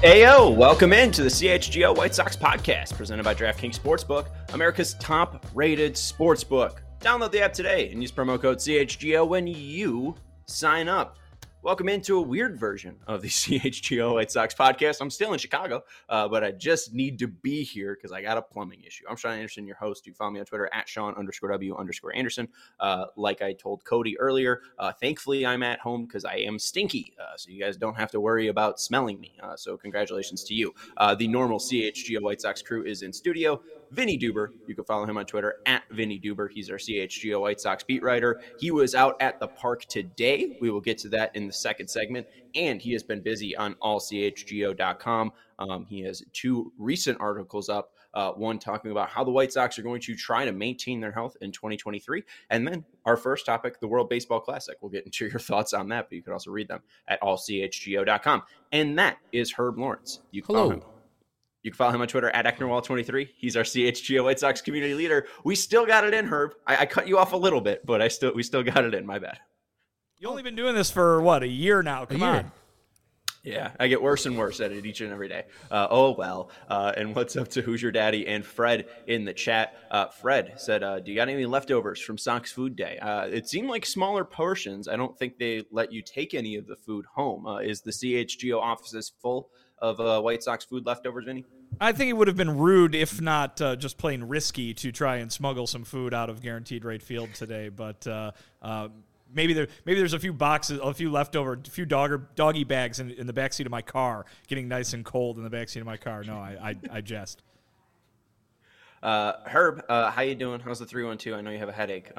Ayo, welcome into the CHGO White Sox podcast presented by DraftKings Sportsbook, America's top-rated sportsbook. Download the app today and use promo code CHGO when you sign up. Welcome into a weird version of the CHGO White Sox podcast. I'm still in Chicago, but I just need to be here because I got a plumbing issue. I'm Sean Anderson, your host. You follow me on Twitter at Sean_W_Anderson. Like I told Cody earlier, thankfully I'm at home because I am stinky, so you guys don't have to worry about smelling me. So congratulations to you. The normal CHGO White Sox crew is in studio. Vinny Duber, you can follow him on Twitter at Vinny Duber. He's our CHGO White Sox beat writer. He was out at the park today. We will get to that in the second segment. And he has been busy on allchgo.com. He has two recent articles up, one talking about how the White Sox are going to try to maintain their health in 2023. And then our first topic, the World Baseball Classic. We'll get into your thoughts on that, but you could also read them at allchgo.com. And that is Herb Lawrence. You can follow him. You can follow him on Twitter at Ecknerwall23. He's our CHGO White Sox community leader. We still got it in, Herb. I cut you off a little bit, but we still got it in. My bad. You've only been doing this for, a year now? Come on. Yeah, I get worse and worse at it each and every day. And what's up to Who's Your Daddy and Fred in the chat. Fred said, do you got any leftovers from Sox Food Day? It seemed like smaller portions. I don't think they let you take any of the food home. Is the CHGO offices full of White Sox food leftovers, Vinny? I think it would have been rude, if not just plain risky, to try and smuggle some food out of Guaranteed Rate Field today. But maybe there's a few boxes, a few leftover, a few doggy bags in the backseat of my car, getting nice and cold in the backseat of my car. No, I jest. Herb, how you doing? How's the 312? I know you have a headache.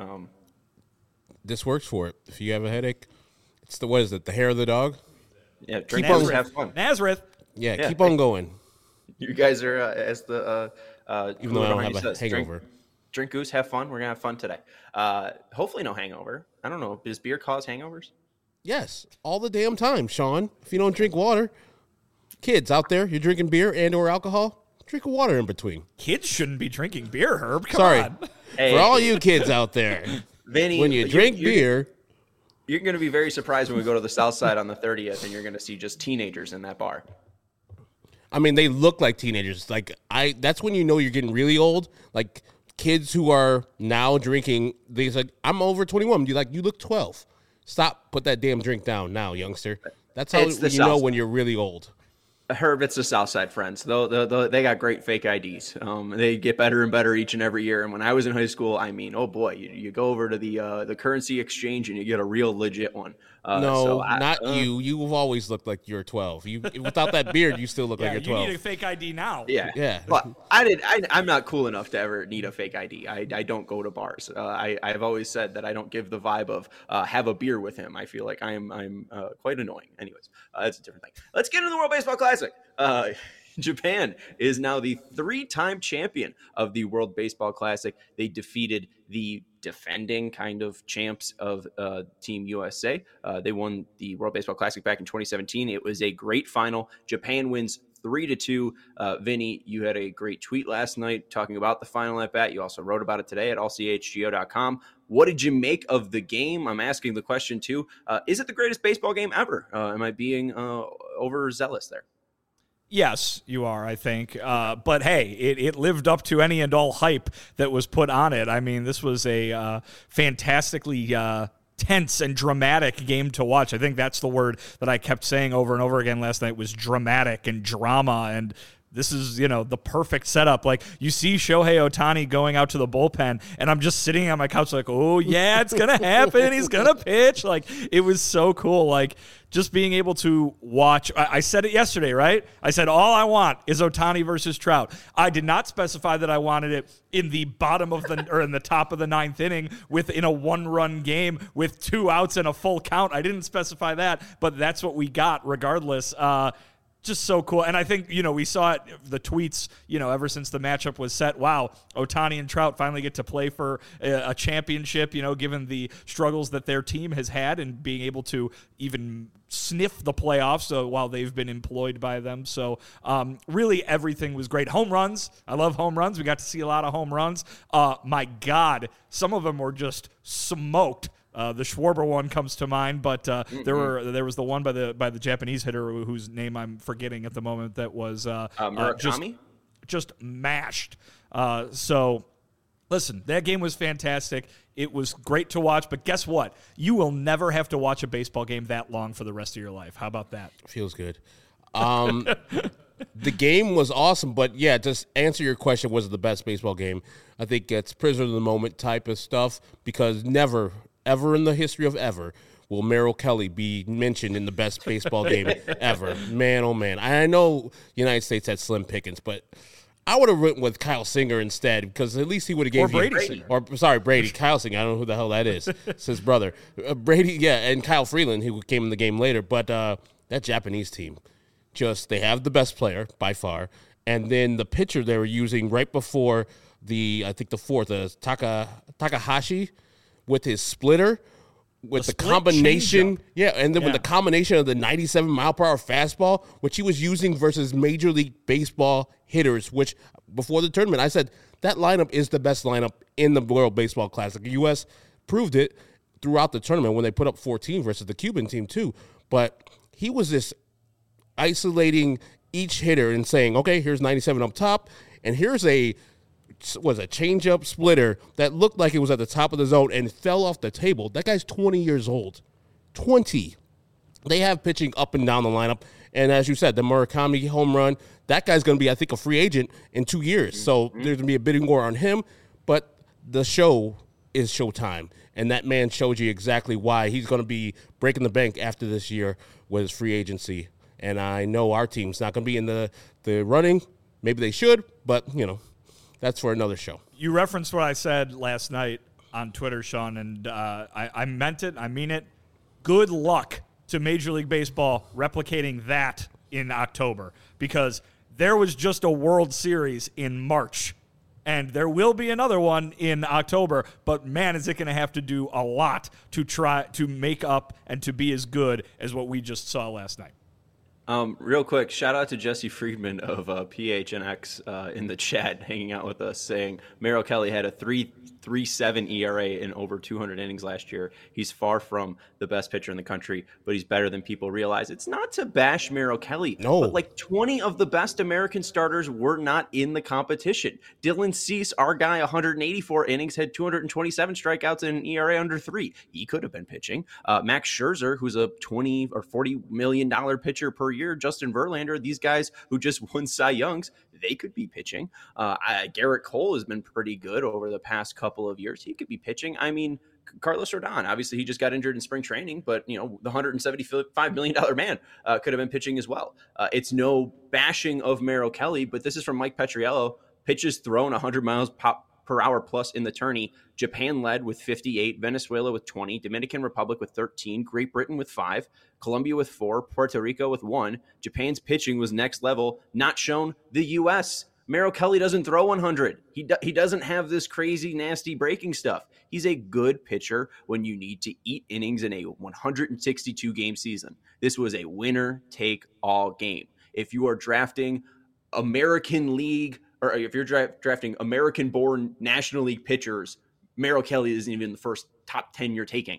This works for it. If you have a headache, it's what is it? The hair of the dog? Yeah, drink Goose, have fun. Nazareth. Yeah, keep on going. You guys are, as the even though I don't have a hangover. Drink Goose, have fun. We're going to have fun today. Hopefully no hangover. I don't know. Does beer cause hangovers? Yes, all the damn time, Sean. If you don't drink water, kids out there, you're drinking beer and or alcohol, drink water in between. Kids shouldn't be drinking beer, Herb. Come on. Hey, for all you kids out there, Vinny, when you drink beer... You're going to be very surprised when we go to the South Side on the 30th and you're going to see just teenagers in that bar. I mean, they look like teenagers. That's when you know you're getting really old. Like kids who are now drinking, they say, I'm over 21. You look 12. Stop, put that damn drink down now, youngster. That's how you know when you're really old. Herb, it's the Southside Friends. They got great fake IDs. They get better and better each and every year. And when I was in high school, I mean, oh boy, you go over to the currency exchange and you get a real legit one. Not you. You've always looked like you're 12. Without that beard, you still look like you're 12. You need a fake ID now. Yeah. But I'm not cool enough to ever need a fake ID. I don't go to bars. I've always said that I don't give the vibe of have a beer with him. I feel like I'm quite annoying. Anyways, that's a different thing. Let's get into the World Baseball Classic. Japan is now the 3-time champion of the World Baseball Classic. They defeated the defending kind of champs of Team USA. They won the World Baseball Classic back in 2017. It was a great final. Japan wins 3-2. Vinny, you had a great tweet last night talking about the final at bat. You also wrote about it today at allchgo.com. What did you make of the game? I'm asking the question too. Is it the greatest baseball game ever? Am I being overzealous there? Yes, you are, I think. But hey, it lived up to any and all hype that was put on it. I mean, this was a fantastically tense and dramatic game to watch. I think that's the word that I kept saying over and over again last night was dramatic and drama. And this is, the perfect setup. Like, you see Shohei Ohtani going out to the bullpen, and I'm just sitting on my couch like, oh, yeah, it's going to happen. He's going to pitch. Like, it was so cool. Like, just being able to watch. I said it yesterday, right? I said, all I want is Ohtani versus Trout. I did not specify that I wanted it in the bottom of the, or in the top of the 9th inning in a 1-run game with 2 outs and a full count. I didn't specify that, but that's what we got regardless. Just so cool. And I think, we saw it, the tweets, ever since the matchup was set. Wow, Ohtani and Trout finally get to play for a championship, given the struggles that their team has had and being able to even sniff the playoffs while they've been employed by them. So really everything was great. Home runs. I love home runs. We got to see a lot of home runs. My God, some of them were just smoked The Schwarber one comes to mind, but there was the one by the Japanese hitter whose name I'm forgetting at the moment that was Murakami? Just mashed. So listen, that game was fantastic. It was great to watch, but guess what? You will never have to watch a baseball game that long for the rest of your life. How about that? Feels good. The game was awesome, but yeah, just answer your question, was it the best baseball game? I think it's prisoner of the moment type of stuff, because never, ever in the history of ever will Merrill Kelly be mentioned in the best baseball game ever. Man, oh man. I know United States had slim pickings, but I would have went with Kyle Singer instead, because at least he would have gave Brady. Brady. Kyle Singer. I don't know who the hell that is. It's his brother. Brady, yeah, and Kyle Freeland, who came in the game later. But that Japanese team, they have the best player by far. And then the pitcher they were using right before the fourth, Takahashi, with his splitter, with the combination. Yeah, and then with the combination of the 97-mile-per-hour fastball, which he was using versus Major League Baseball hitters, which before the tournament, I said that lineup is the best lineup in the World Baseball Classic. The U.S. proved it throughout the tournament when they put up 14 versus the Cuban team too. But he was this isolating each hitter and saying, okay, here's 97 up top, and here's a changeup splitter that looked like it was at the top of the zone and fell off the table. That guy's 20 years old. 20. They have pitching up and down the lineup. And as you said, the Murakami home run, that guy's going to be, I think, a free agent in 2 years. So there's going to be a bidding war on him. But the show is showtime. And that man showed you exactly why he's going to be breaking the bank after this year with his free agency. And I know our team's not going to be in the running. Maybe they should, but, that's for another show. You referenced what I said last night on Twitter, Sean, and I meant it. I mean it. Good luck to Major League Baseball replicating that in October, because there was just a World Series in March, and there will be another one in October, but man, is it going to have to do a lot to try to make up and to be as good as what we just saw last night. Real quick, shout out to Jesse Friedman of PHNX in the chat, hanging out with us, saying Merrill Kelly had a 3.37 ERA in over 200 innings last year. He's far from the best pitcher in the country, but he's better than people realize. It's not to bash Merrill Kelly, but like 20 of the best American starters were not in the competition. Dylan Cease, our guy, 184 innings, had 227 strikeouts and an ERA under 3. He could have been pitching. Max Scherzer, who's a $20 or $40 million pitcher per year, Justin Verlander, these guys who just won Cy Youngs, they could be pitching. Garrett Cole has been pretty good over the past couple of years. He could be pitching. I mean, Carlos Rodon, obviously he just got injured in spring training, but the $175 million man could have been pitching as well. It's no bashing of Merrill Kelly, but this is from Mike Petriello. Pitches thrown 100 miles per hour plus in the tourney. Japan led with 58, Venezuela with 20, Dominican Republic with 13, Great Britain with 5, Colombia with 4, Puerto Rico with 1. Japan's pitching was next level, not shown the U.S. Merrill Kelly doesn't throw 100. He doesn't have this crazy, nasty breaking stuff. He's a good pitcher when you need to eat innings in a 162-game season. This was a winner-take-all game. If you are drafting American League, or if you're drafting American-born National League pitchers, Merrill Kelly isn't even the first top 10 you're taking.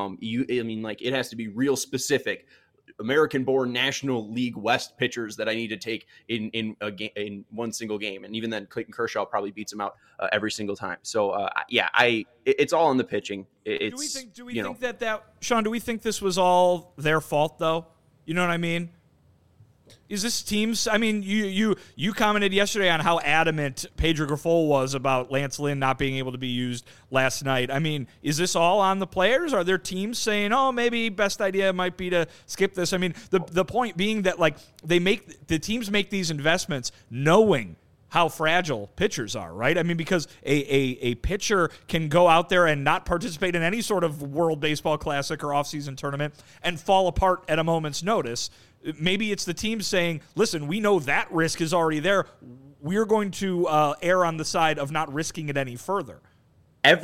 It has to be real specific. American-born National League West pitchers that I need to take in one single game, and even then, Clayton Kershaw probably beats him out every single time. So, it's all on the pitching. Do we think that Sean? Do we think this was all their fault, though? You know what I mean? Is this team's? I mean, you commented yesterday on how adamant Pedro Grifol was about Lance Lynn not being able to be used last night. I mean, is this all on the players? Are there teams saying, "Oh, maybe best idea might be to skip this"? I mean, the point being that like the teams make these investments knowing how fragile pitchers are, right? I mean, because a pitcher can go out there and not participate in any sort of World Baseball Classic or offseason tournament and fall apart at a moment's notice. Maybe it's the team saying, listen, we know that risk is already there. We're going to err on the side of not risking it any further. I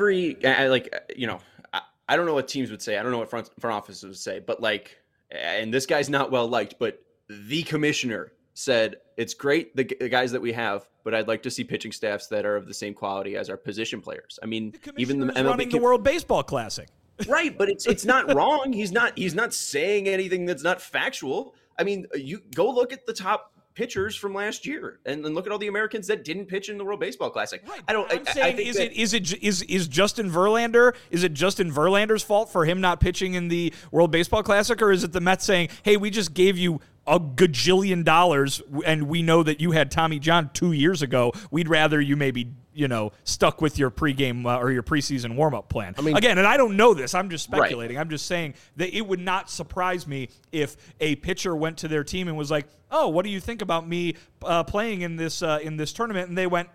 don't know what teams would say. I don't know what front offices would say, but and this guy's not well liked, but the commissioner said, it's great, the guys that we have, but I'd like to see pitching staffs that are of the same quality as our position players. I mean, even the MLB running the World Baseball Classic. Right, but it's not wrong. He's not saying anything that's not factual. I mean, you go look at the top pitchers from last year and then look at all the Americans that didn't pitch in the World Baseball Classic. Right. I'm saying, is Justin Verlander? Is it Justin Verlander's fault for him not pitching in the World Baseball Classic, or is it the Mets saying, "Hey, we just gave you a gajillion dollars, and we know that you had Tommy John 2 years ago. We'd rather you maybe, stuck with your pregame or your preseason warm-up plan." I mean, again, and I don't know this. I'm just speculating. Right. I'm just saying that it would not surprise me if a pitcher went to their team and was like, "Oh, what do you think about me playing in this tournament?" And they went,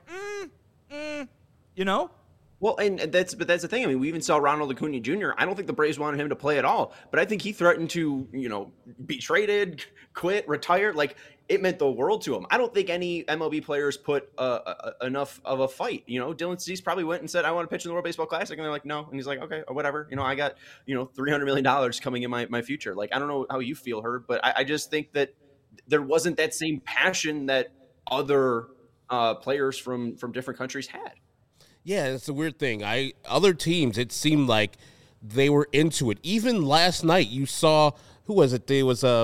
Well, and that's the thing. I mean, we even saw Ronald Acuna Jr. I don't think the Braves wanted him to play at all, but I think he threatened to, be traded, quit, retire. Like, it meant the world to him. I don't think any MLB players put enough of a fight. Dylan Cease probably went and said, "I want to pitch in the World Baseball Classic," and they're like, "No," and he's like, "Okay, or whatever. I got $300 million coming in my future." Like, I don't know how you feel, Herb, but I just think that there wasn't that same passion that other players from different countries had. Yeah, it's a weird thing. Other teams, it seemed like they were into it. Even last night, you saw, who was it? There was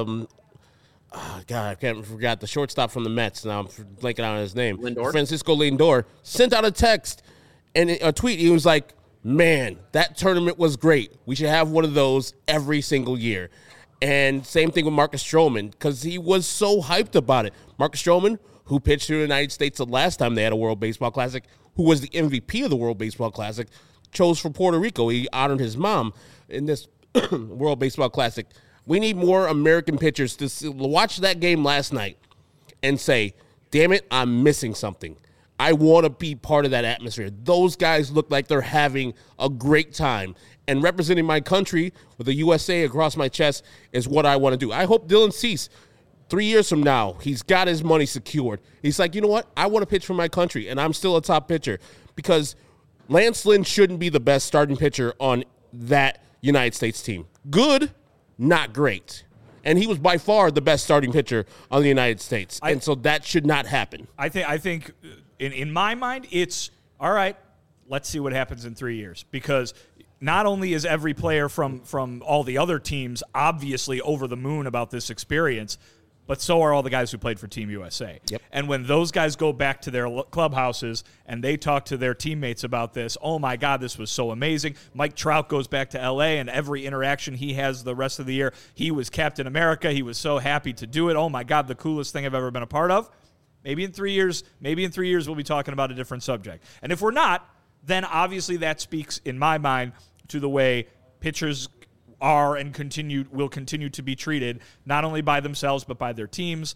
I forgot the shortstop from the Mets. Now I'm blanking on his name. Lindor? Francisco Lindor sent out a text and a tweet. He was like, "Man, that tournament was great. We should have one of those every single year." And same thing with Marcus Stroman, because he was so hyped about it. Marcus Stroman, who pitched for the United States the last time they had a World Baseball Classic, who was the MVP of the World Baseball Classic, chose for Puerto Rico. He honored his mom in this World Baseball Classic. We need more American pitchers to watch that game last night and say, "Damn it, I'm missing something. I want to be part of that atmosphere." Those guys look like they're having a great time. And representing my country with the USA across my chest is what I want to do. I hope Dylan Cease, 3 years from now, he's got his money secured. He's like, "You know what? I want to pitch for my country, and I'm still a top pitcher." Because Lance Lynn shouldn't be the best starting pitcher on that United States team. Good, not great. And he was by far the best starting pitcher on the United States. And so that should not happen. I think in my mind, it's, all right, let's see what happens in 3 years. Because not only is every player from all the other teams obviously over the moon about this experience, but so are all the guys who played for Team USA. Yep. And when those guys go back to their clubhouses and they talk to their teammates about this, "Oh, my God, this was so amazing." Mike Trout goes back to L.A., and every interaction he has the rest of the year, he was Captain America. He was so happy to do it. "Oh, my God, the coolest thing I've ever been a part of." Maybe in 3 years we'll be talking about a different subject. And if we're not, then obviously that speaks, in my mind, to the way pitchers are and will continue to be treated, not only by themselves but by their teams.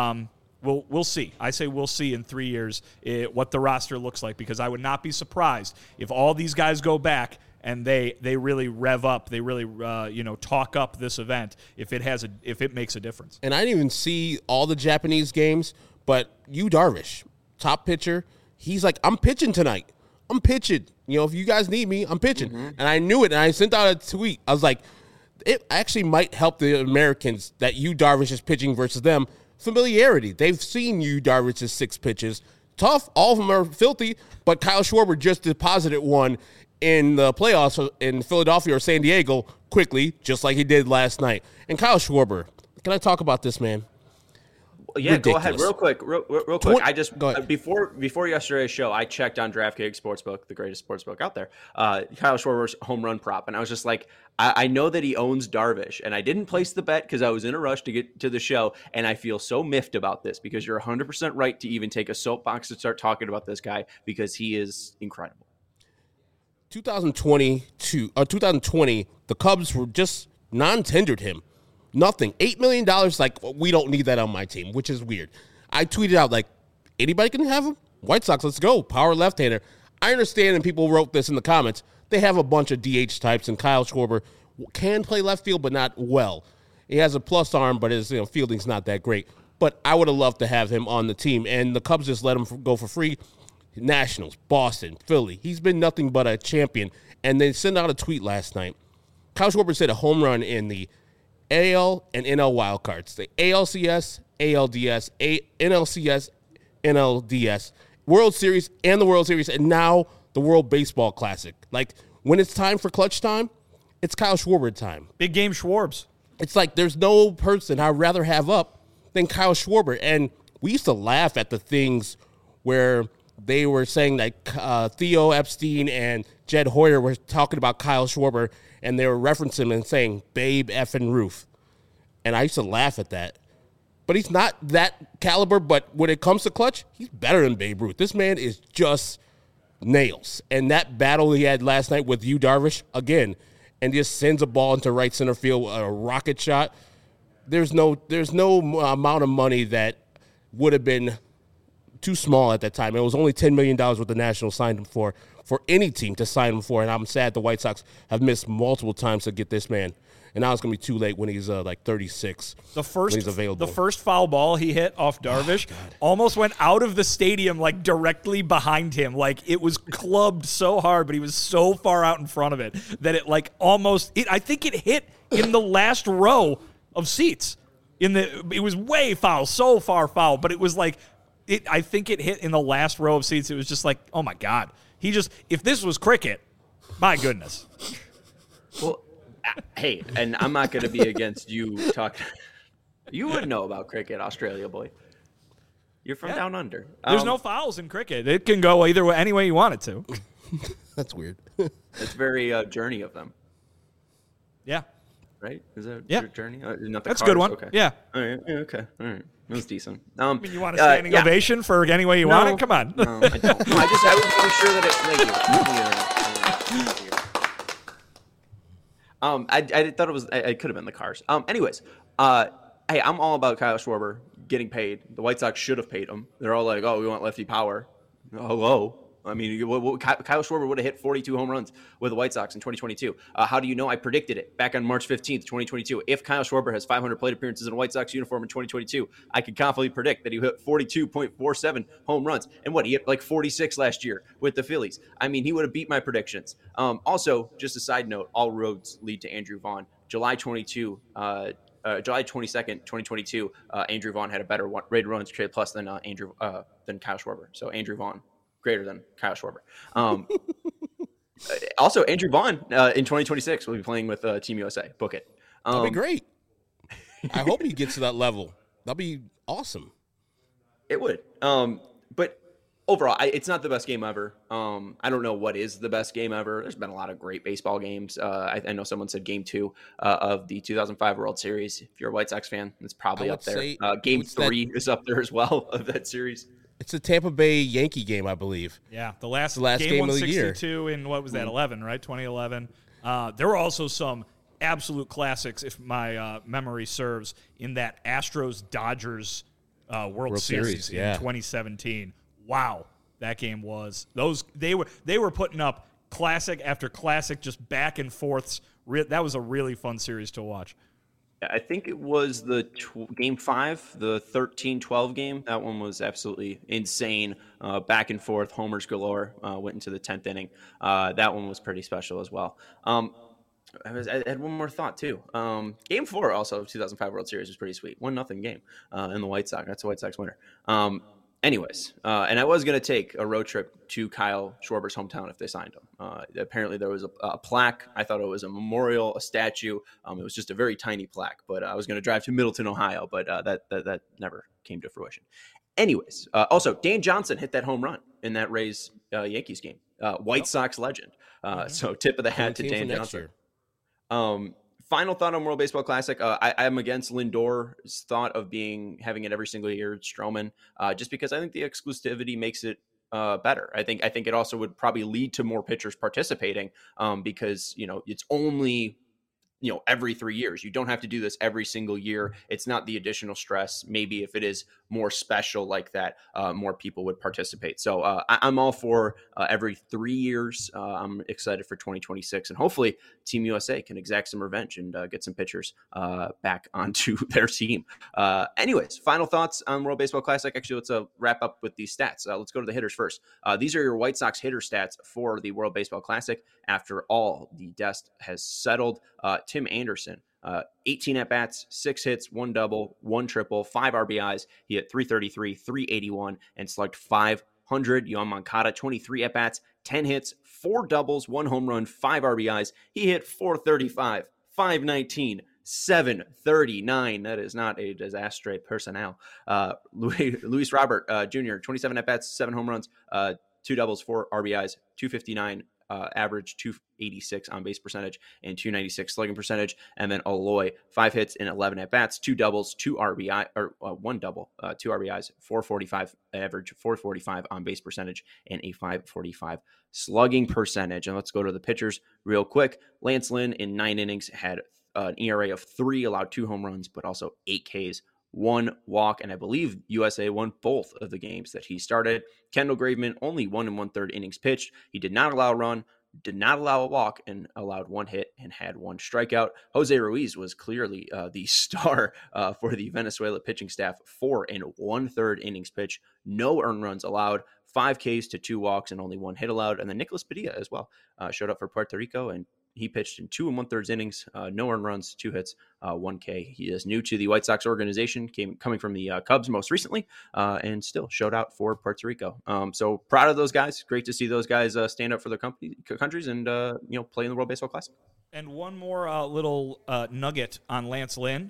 We'll see. I say we'll see in 3 years what the roster looks like, because I would not be surprised if all these guys go back and they really rev up, they really talk up this event if it makes a difference. And I didn't even see all the Japanese games, but Yu Darvish, top pitcher, he's like, "I'm pitching tonight. I'm pitching. If you guys need me, I'm pitching." Mm-hmm. And I knew it, and I sent out a tweet. I was like, it actually might help the Americans that Yu Darvish is pitching versus them. Familiarity. They've seen Yu Darvish's 6 pitches. Tough. All of them are filthy, but Kyle Schwarber just deposited one in the playoffs in Philadelphia or San Diego quickly, just like he did last night. And Kyle Schwarber, can I talk about this, man? Yeah, ridiculous. Go ahead, real quick. Real quick. I just before yesterday's show, I checked on DraftKings Sportsbook, the greatest sportsbook out there. Kyle Schwarber's home run prop, and I was just like, I know that he owns Darvish, and I didn't place the bet because I was in a rush to get to the show, and I feel so miffed about this because you're 100% right to even take a soapbox to start talking about this guy because he is incredible. 2020, the Cubs were just non-tendered him. Nothing. $8 million, like, we don't need that on my team, which is weird. I tweeted out, like, anybody can have him? White Sox, let's go. Power left-hander. I understand, and people wrote this in the comments, they have a bunch of DH types, and Kyle Schwarber can play left field, but not well. He has a plus arm, but his fielding's not that great. But I would have loved to have him on the team, and the Cubs just let him go for free. Nationals, Boston, Philly. He's been nothing but a champion. And they sent out a tweet last night. Kyle Schwarber hit a home run in the AL and NL wildcards. The ALCS, ALDS, NLCS, NLDS, World Series, and the World Series, and now the World Baseball Classic. Like, when it's time for clutch time, it's Kyle Schwarber time. Big game Schwarbs. It's like there's no person I'd rather have up than Kyle Schwarber. And we used to laugh at the things where they were saying that Theo Epstein and Jed Hoyer were talking about Kyle Schwarber, and they were referencing him and saying, Babe effing Ruth. And I used to laugh at that. But he's not that caliber, but when it comes to clutch, he's better than Babe Ruth. This man is just nails. And that battle he had last night with Yu Darvish, again, and just sends a ball into right center field, a rocket shot. There's no amount of money that would have been too small at that time. It was only $10 million what the Nationals signed him for any team to sign him for, and I'm sad the White Sox have missed multiple times to get this man. And now it's going to be too late when he's like 36. The first, when he's available. The first foul ball he hit off Darvish almost went out of the stadium, like directly behind him. Like it was clubbed so hard, but he was so far out in front of it that it like almost. I think it hit in the last row of seats. It was way foul, so far foul, but it was like I think it hit in the last row of seats. It was just like, oh my God, if this was cricket, my goodness. Well. Hey, and I'm not going to be against you talking. You would know about cricket, Australia boy. You're from down under. There's no fouls in cricket. It can go either way, any way you want it to. That's weird. It's very Journey of them. Yeah. Right? Is that Journey? That's cars? A good one. Okay. Yeah. All right. Yeah, okay. All right. That was decent. I mean, you want a standing ovation for any way you want it? Come on. No, I don't. I was making sure that Thank you. I thought it was. It could have been the Cars. Anyways, hey, I'm all about Kyle Schwarber getting paid. The White Sox should have paid him. They're all like, "Oh, we want lefty power." Hello. I mean, Kyle Schwarber would have hit 42 home runs with the White Sox in 2022. How do you know? I predicted it back on March 15th, 2022. If Kyle Schwarber has 500 plate appearances in a White Sox uniform in 2022, I could confidently predict that he hit 42.47 home runs. And he hit like 46 last year with the Phillies. I mean, he would have beat my predictions. Also, just a side note, all roads lead to Andrew Vaughn. July 22nd, 2022, Andrew Vaughn had a better rated runs created plus than Kyle Schwarber. So Andrew Vaughn greater than Kyle Schwarber. Also, Andrew Vaughn in 2026 will be playing with Team USA. Book it. That'll be great. I hope he gets to that level. That'll be awesome. It would. But overall, it's not the best game ever. I don't know what is the best game ever. There's been a lot of great baseball games. I know someone said Game 2 of the 2005 World Series. If you're a White Sox fan, it's probably up there. Game 3 is up there as well of that series. It's a Tampa Bay Yankee game, I believe. Yeah, the last game of the year. 162 in, what was that, 11, right? 2011. There were also some absolute classics, if my memory serves, in that Astros-Dodgers World Series in 2017. Wow, that game was. They were putting up classic after classic, just back and forths. That was a really fun series to watch. I think it was the Game 5, the 13-12 game. That one was absolutely insane. Back and forth, homers galore. Went into the 10th inning. That one was pretty special as well. I had one more thought, too. Game 4, also, of 2005 World Series was pretty sweet. 1-0 game in the White Sox. That's a White Sox winner. Anyways, and I was going to take a road trip to Kyle Schwarber's hometown if they signed him. Apparently, there was a plaque. I thought it was a memorial, a statue. It was just a very tiny plaque, but I was going to drive to Middleton, Ohio, but that never came to fruition. Anyways, also, Dan Johnson hit that home run in that Rays Yankees game. White Sox legend. So tip of the hat to Dan Johnson. Final thought on World Baseball Classic. I'm against Lindor's thought of having it every single year at Stroman, just because I think the exclusivity makes it better. I think it also would probably lead to more pitchers participating because it's only every 3 years. You don't have to do this every single year. It's not the additional stress. Maybe if it is more special like that, more people would participate. So I'm all for every 3 years. I'm excited for 2026, and hopefully Team USA can exact some revenge and get some pitchers back onto their team. Anyways, final thoughts on World Baseball Classic. Actually, let's wrap up with these stats. Let's go to the hitters first. These are your White Sox hitter stats for the World Baseball Classic after all the dust has settled. Tim Anderson, 18 at-bats, 6 hits, 1 double, 1 triple, 5 RBIs. He hit .333, .381, and slugged .500. Yoan Moncada, 23 at-bats, 10 hits, 4 doubles, 1 home run, 5 RBIs. He hit 435, 519, 739. That is not a disaster personnel. Luis Robert Jr., 27 at-bats, 7 home runs, 2 doubles, 4 RBIs, 259 average, 286 on base percentage, and 296 slugging percentage. And then Eloy, 5 hits and 11 at bats, 2 doubles, 2 RBI, or 1 double, 2 RBIs, 445 average, 445 on base percentage, and a 545 slugging percentage. And let's go to the pitchers real quick. Lance Lynn in 9 innings had an ERA of 3, allowed 2 home runs, but also 8 Ks. 1 walk, and I believe USA won both of the games that he started. Kendall Graveman, only 1 1/3 innings pitched. He did not allow a run, did not allow a walk, and allowed 1 hit and had 1 strikeout. Jose Ruiz was clearly the star for the Venezuela pitching staff. 4 1/3 innings pitched, no earned runs allowed, 5 Ks to 2 walks, and only 1 hit allowed. And then Nicolas Padilla as well showed up for Puerto Rico, and he pitched in 2 1/3 innings, no earned runs, 2 hits, 1 K. He is new to the White Sox organization, coming from the Cubs most recently, and still showed out for Puerto Rico. So proud of those guys. Great to see those guys stand up for their countries and play in the World Baseball Classic. And one more little nugget on Lance Lynn.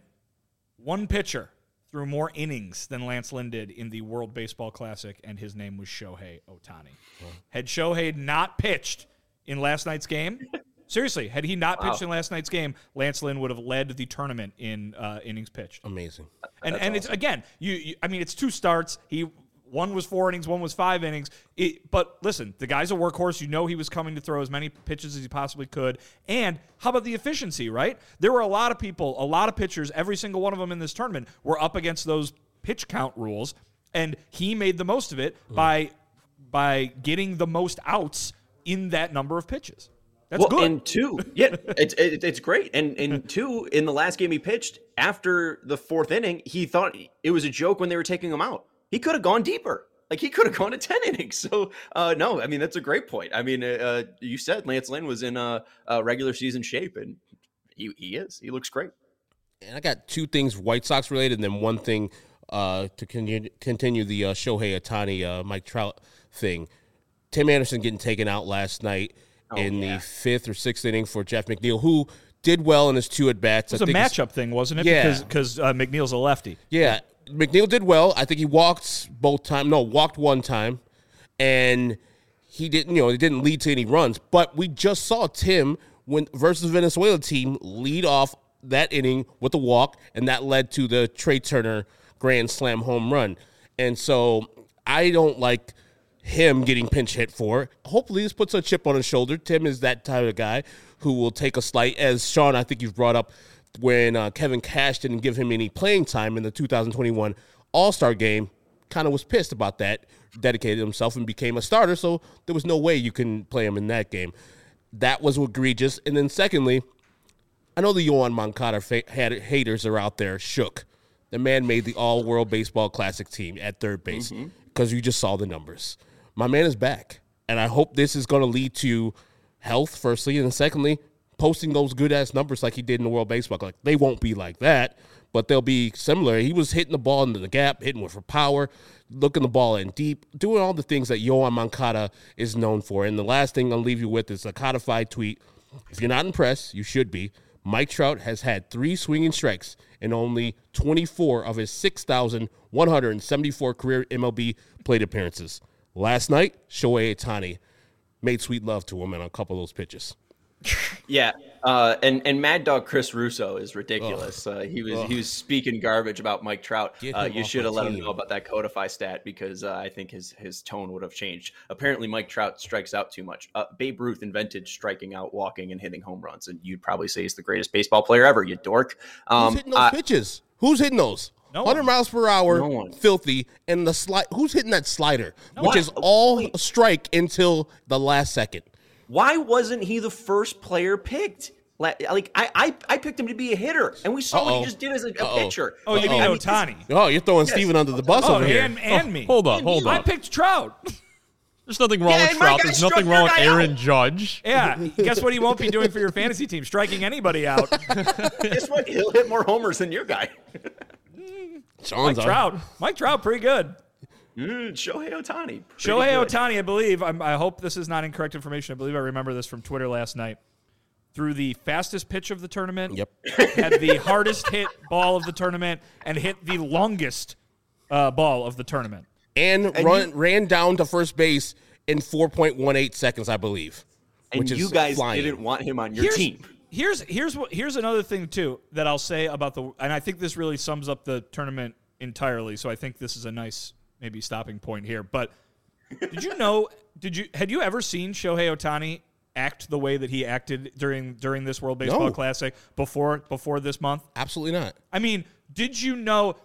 One pitcher threw more innings than Lance Lynn did in the World Baseball Classic, and his name was Shohei Ohtani. Had Shohei not pitched in last night's game... Seriously, had he not pitched in last night's game, Lance Lynn would have led the tournament in innings pitched. Amazing. And awesome. It's again, it's 2 starts. One was 4 innings, one was 5 innings. But listen, the guy's a workhorse. You know he was coming to throw as many pitches as he possibly could. And how about the efficiency, right? There were a lot of people, a lot of pitchers, every single one of them in this tournament were up against those pitch count rules, and he made the most of it by getting the most outs in that number of pitches. That's good. And 2, yeah, it's great. And in 2, in the last game he pitched, after the 4th inning, he thought it was a joke when they were taking him out. He could have gone deeper. Like, he could have gone to 10 innings. So, no, I mean, that's a great point. I mean, you said Lance Lynn was in a regular season shape, and he is. He looks great. And I got 2 things White Sox related, and then one thing to continue the Shohei Ohtani, Mike Trout thing. Tim Anderson getting taken out last night. The 5th or 6th inning for Jeff McNeil, who did well in his 2 at-bats. It was a matchup thing, wasn't it? Yeah. Because McNeil's a lefty. Yeah. McNeil did well. I think he walked walked 1 time, and he didn't, it didn't lead to any runs. But we just saw Tim, versus Venezuela team, lead off that inning with a walk, and that led to the Trey Turner grand slam home run. And so I don't like him getting pinch hit for. Hopefully this puts a chip on his shoulder. Tim is that type of guy who will take a slight, as Sean, I think you've brought up, when Kevin Cash didn't give him any playing time in the 2021 All-Star game, kind of was pissed about that, dedicated himself and became a starter, so there was no way you can play him in that game. That was egregious. And then secondly, I know the Yoan Moncada haters are out there shook. The man made the All-World Baseball Classic team at third base because you just saw the numbers. My man is back, and I hope this is going to lead to health, firstly, and then secondly, posting those good-ass numbers like he did in the World Baseball. Like, they won't be like that, but they'll be similar. He was hitting the ball into the gap, hitting with for power, looking the ball in deep, doing all the things that Yoan Moncada is known for. And the last thing I'll leave you with is a codified tweet. If you're not impressed, you should be. Mike Trout has had 3 swinging strikes in only 24 of his 6,174 career MLB plate appearances. Last night, Shohei Ohtani made sweet love to him on a couple of those pitches. Yeah, and Mad Dog Chris Russo is ridiculous. He was speaking garbage about Mike Trout. You should have let him know about that Codify stat, because I think his tone would have changed. Apparently, Mike Trout strikes out too much. Babe Ruth invented striking out, walking, and hitting home runs, and you'd probably say he's the greatest baseball player ever, you dork. Who's hitting those pitches? Who's hitting those? No 100 miles per hour, filthy, and the slide. Who's hitting that slider, which is all a strike until the last second? Why wasn't he the first player picked? Like I picked him to be a hitter, and we saw what he just did as a pitcher. Oh, you mean Ohtani? Oh, you're throwing Steven under the bus over here. And me. Hold on. I picked Trout. There's nothing wrong with Trout. There's nothing wrong with Aaron Judge. Yeah. Guess what he won't be doing for your fantasy team? Striking anybody out. Guess what? He'll hit more homers than your guy. Mike Trout, pretty good. Shohei Ohtani. Shohei Ohtani, I believe, I hope this is not incorrect information. I believe I remember this from Twitter last night. Threw the fastest pitch of the tournament. Yep. Had the hardest hit ball of the tournament and hit the longest ball of the tournament. And ran down to first base in 4.18 seconds, I believe. And you guys didn't want him on your team. Here's another thing too that I'll say about and I think this really sums up the tournament entirely. So I think this is a nice maybe stopping point here. But had you ever seen Shohei Ohtani act the way that he acted during this World Baseball Classic before this month? Absolutely not. I mean, did you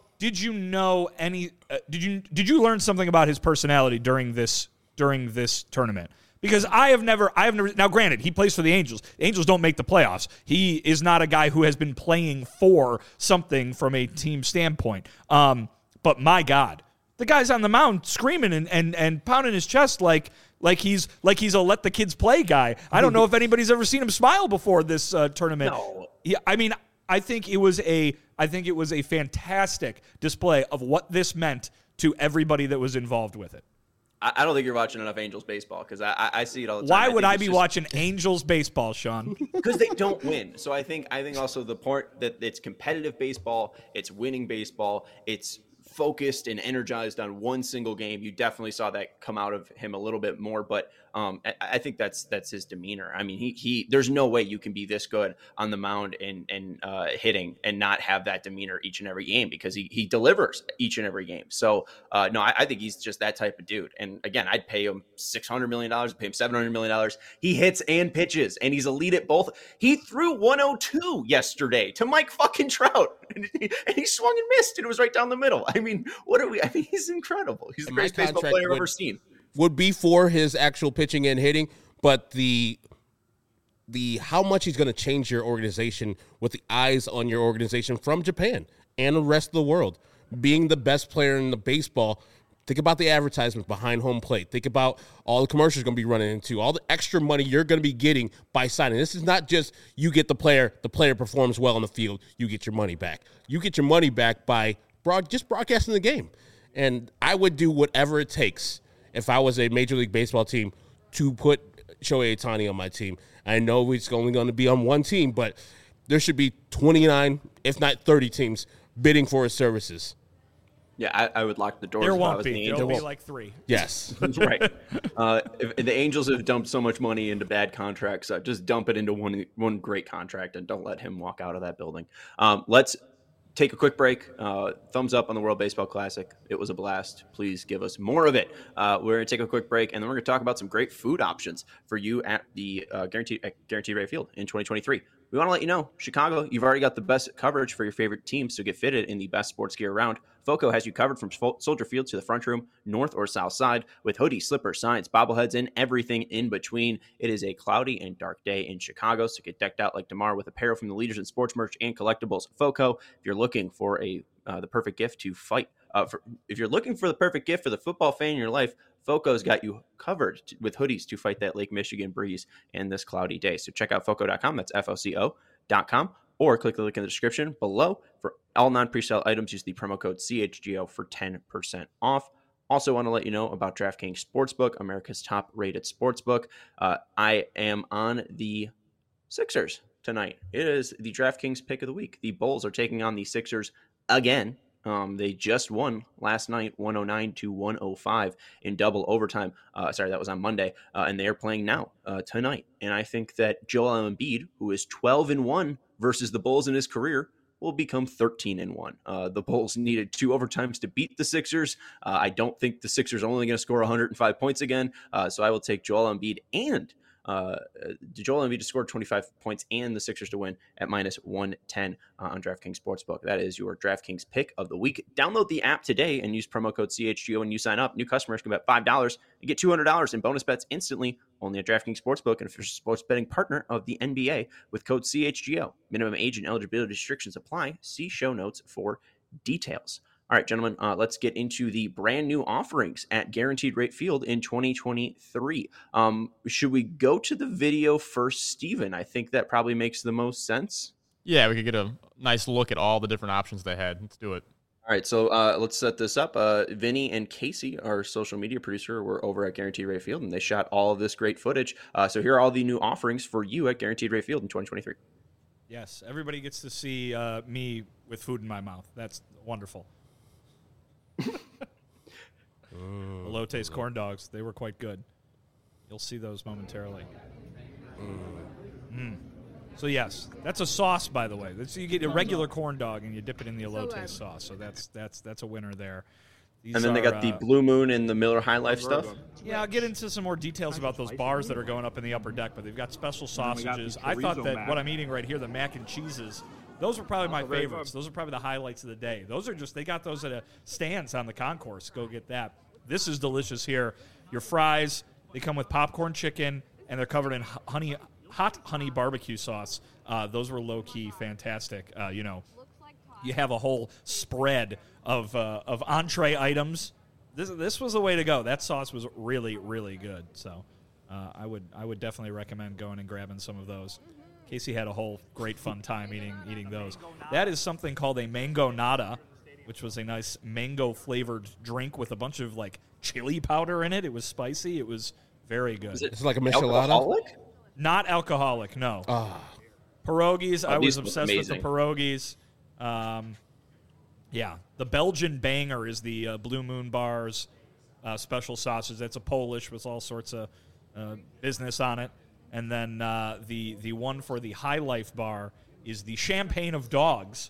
learn something about his personality during this tournament? Because I have never. Now, granted, he plays for the Angels. The Angels don't make the playoffs. He is not a guy who has been playing for something from a team standpoint. But my God, the guy's on the mound screaming and pounding his chest like he's a let the kids play guy. I don't know if anybody's ever seen him smile before this tournament. No. Yeah, I mean, I think it was a fantastic display of what this meant to everybody that was involved with it. I don't think you're watching enough Angels baseball because I see it all the time. Why would I be watching Angels baseball, Sean? Because they don't win. So I think also the part that it's competitive baseball, it's winning baseball, it's focused and energized on one single game. You definitely saw that come out of him a little bit more, but I think that's his demeanor. I mean, he there's no way you can be this good on the mound and hitting and not have that demeanor each and every game because he delivers each and every game. So no, I think he's just that type of dude. And again, I'd pay him $600 million, I'd pay him $700 million. He hits and pitches, and he's elite at both. He threw 102 yesterday to Mike fucking Trout, and he swung and missed, and it was right down the middle. I mean, he's incredible. He's the greatest baseball player I've ever seen. Would be for his actual pitching and hitting, but the how much he's going to change your organization with the eyes on your organization from Japan and the rest of the world. Being the best player in the baseball, think about the advertisements behind home plate. Think about all the commercials you're going to be running into, all the extra money you're going to be getting by signing. This is not just you get the player performs well on the field, you get your money back. You get your money back by just broadcasting the game. And I would do whatever it takes if I was a Major League Baseball team to put Shohei Ohtani on my team. I know it's only going to be on one team, but there should be 29, if not 30 teams bidding for his services. Yeah, I would lock the doors. There won't be. There'll be like 3. Yes. Right. If the Angels have dumped so much money into bad contracts, just dump it into one great contract and don't let him walk out of that building. Let's take a quick break. Thumbs up on the World Baseball Classic. It was a blast. Please give us more of it. We're going to take a quick break, and then we're going to talk about some great food options for you at the Guaranteed Rate Field in 2023. We want to let you know, Chicago, you've already got the best coverage for your favorite teams to get fitted in the best sports gear around. Foco has you covered from Soldier Field to the front room, north or south side, with hoodies, slippers, signs, bobbleheads, and everything in between. It is a cloudy and dark day in Chicago, so get decked out like DeMar with apparel from the leaders in sports merch and collectibles. Foco, if you're looking for the perfect gift to fight, if you're looking for the perfect gift for the football fan in your life, Foco's got you covered with hoodies to fight that Lake Michigan breeze and this cloudy day. So check out Foco.com. That's FOCO.com. Or click the link in the description below. For all non-presale items, use the promo code CHGO for 10% off. Also want to let you know about DraftKings Sportsbook, America's top-rated sportsbook. I am on the Sixers tonight. It is the DraftKings pick of the week. The Bulls are taking on the Sixers again. They just won last night, 109-105 in double overtime. That was on Monday, and they are playing now tonight. And I think that Joel Embiid, who is 12-1 versus the Bulls in his career, will become 13-1. The Bulls needed 2 overtimes to beat the Sixers. I don't think the Sixers are only going to score 105 points again. So I will take Joel Embiid and Joel Embiid to score 25 points and the Sixers to win at -110 on DraftKings Sportsbook. That is your DraftKings pick of the week. Download the app today and use promo code CHGO when you sign up. New customers can bet $5 and get $200 in bonus bets instantly only at DraftKings Sportsbook, an official sports betting partner of the NBA with code CHGO. Minimum age and eligibility restrictions apply. See show notes for details. All right, gentlemen, let's get into the brand new offerings at Guaranteed Rate Field in 2023. Should we go to the video first, Steven? I think that probably makes the most sense. Yeah, we could get a nice look at all the different options they had. Let's do it. All right, so let's set this up. Vinny and Casey, our social media producer, were over at Guaranteed Rate Field, and they shot all of this great footage. So here are all the new offerings for you at Guaranteed Rate Field in 2023. Yes, everybody gets to see me with food in my mouth. That's wonderful. Elote's corn dogs, they were quite good. You'll see those momentarily. So yes, that's a sauce, by the way. So you get a regular corn dog and you dip it in the elote sauce. So that's a winner there. These and then they got the Blue Moon and the Miller High Life stuff. Yeah, I'll get into some more details about those bars that are going up in the upper deck, but they've got special sausages. I thought that what I'm eating right here, the mac and cheeses, those were probably my favorites. Those are probably the highlights of the day. Those are just, they got those at a stands on the concourse. Go get that. This is delicious here. Your fries, they come with popcorn chicken, and they're covered in hot honey barbecue sauce. Those were low-key fantastic. You have a whole spread of entree items. This was the way to go. That sauce was really, really good. So I would definitely recommend going and grabbing some of those. Casey had a whole great fun time eating those. That is something called a mango nada, which was a nice mango-flavored drink with a bunch of, like, chili powder in it. It was spicy. It was very good. It's like a michelada? Alcoholic? Not alcoholic, no. Pierogies, I was obsessed with the pierogies. Yeah, the Belgian Banger is the Blue Moon Bar's special sausage. That's a Polish with all sorts of business on it. And then the one for the High Life Bar is the Champagne of Dogs.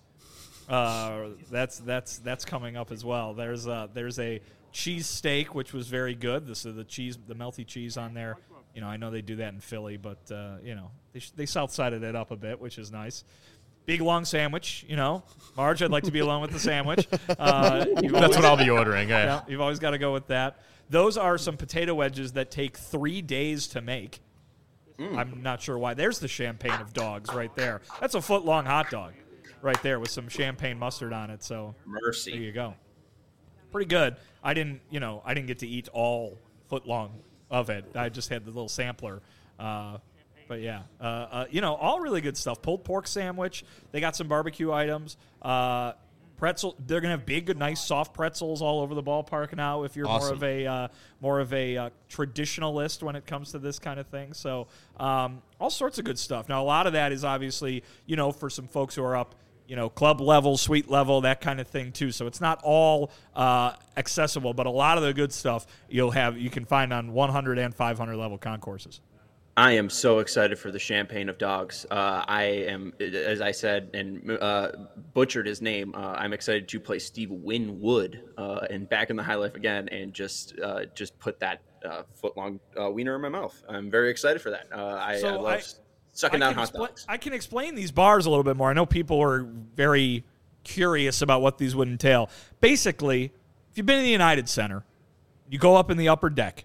That's coming up as well. There's a cheese steak, which was very good. This is the melty cheese on there. I know they do that in Philly, but they south-sided it up a bit, which is nice. Big long sandwich, Marge, I'd like to be alone with the sandwich. That's what I'll be ordering. Yeah, you've always got to go with that. Those are some potato wedges that take 3 days to make. I'm not sure why. There's the Champagne of Dogs right there. That's a foot-long hot dog right there with some champagne mustard on it. So Mercy. There you go. Pretty good. I didn't get to eat all foot-long of it. I just had the little sampler. But yeah, all really good stuff. Pulled pork sandwich. They got some barbecue items. Pretzel. They're gonna have big, nice, soft pretzels all over the ballpark now. If you're awesome. more of a traditionalist when it comes to this kind of thing, so all sorts of good stuff. Now, a lot of that is obviously for some folks who are up, club level, suite level, that kind of thing too. So it's not all accessible, but a lot of the good stuff you can find on 100 and 500 level concourses. I am so excited for the Champagne of Dogs. I am, as I said, and butchered his name. I'm excited to play Steve Winwood and back in the High Life again, and just put that foot-long wiener in my mouth. I'm very excited for that. I love sucking down hot dogs. I can explain these bars a little bit more. I know people are very curious about what these would entail. Basically, if you've been in the United Center, you go up in the upper deck.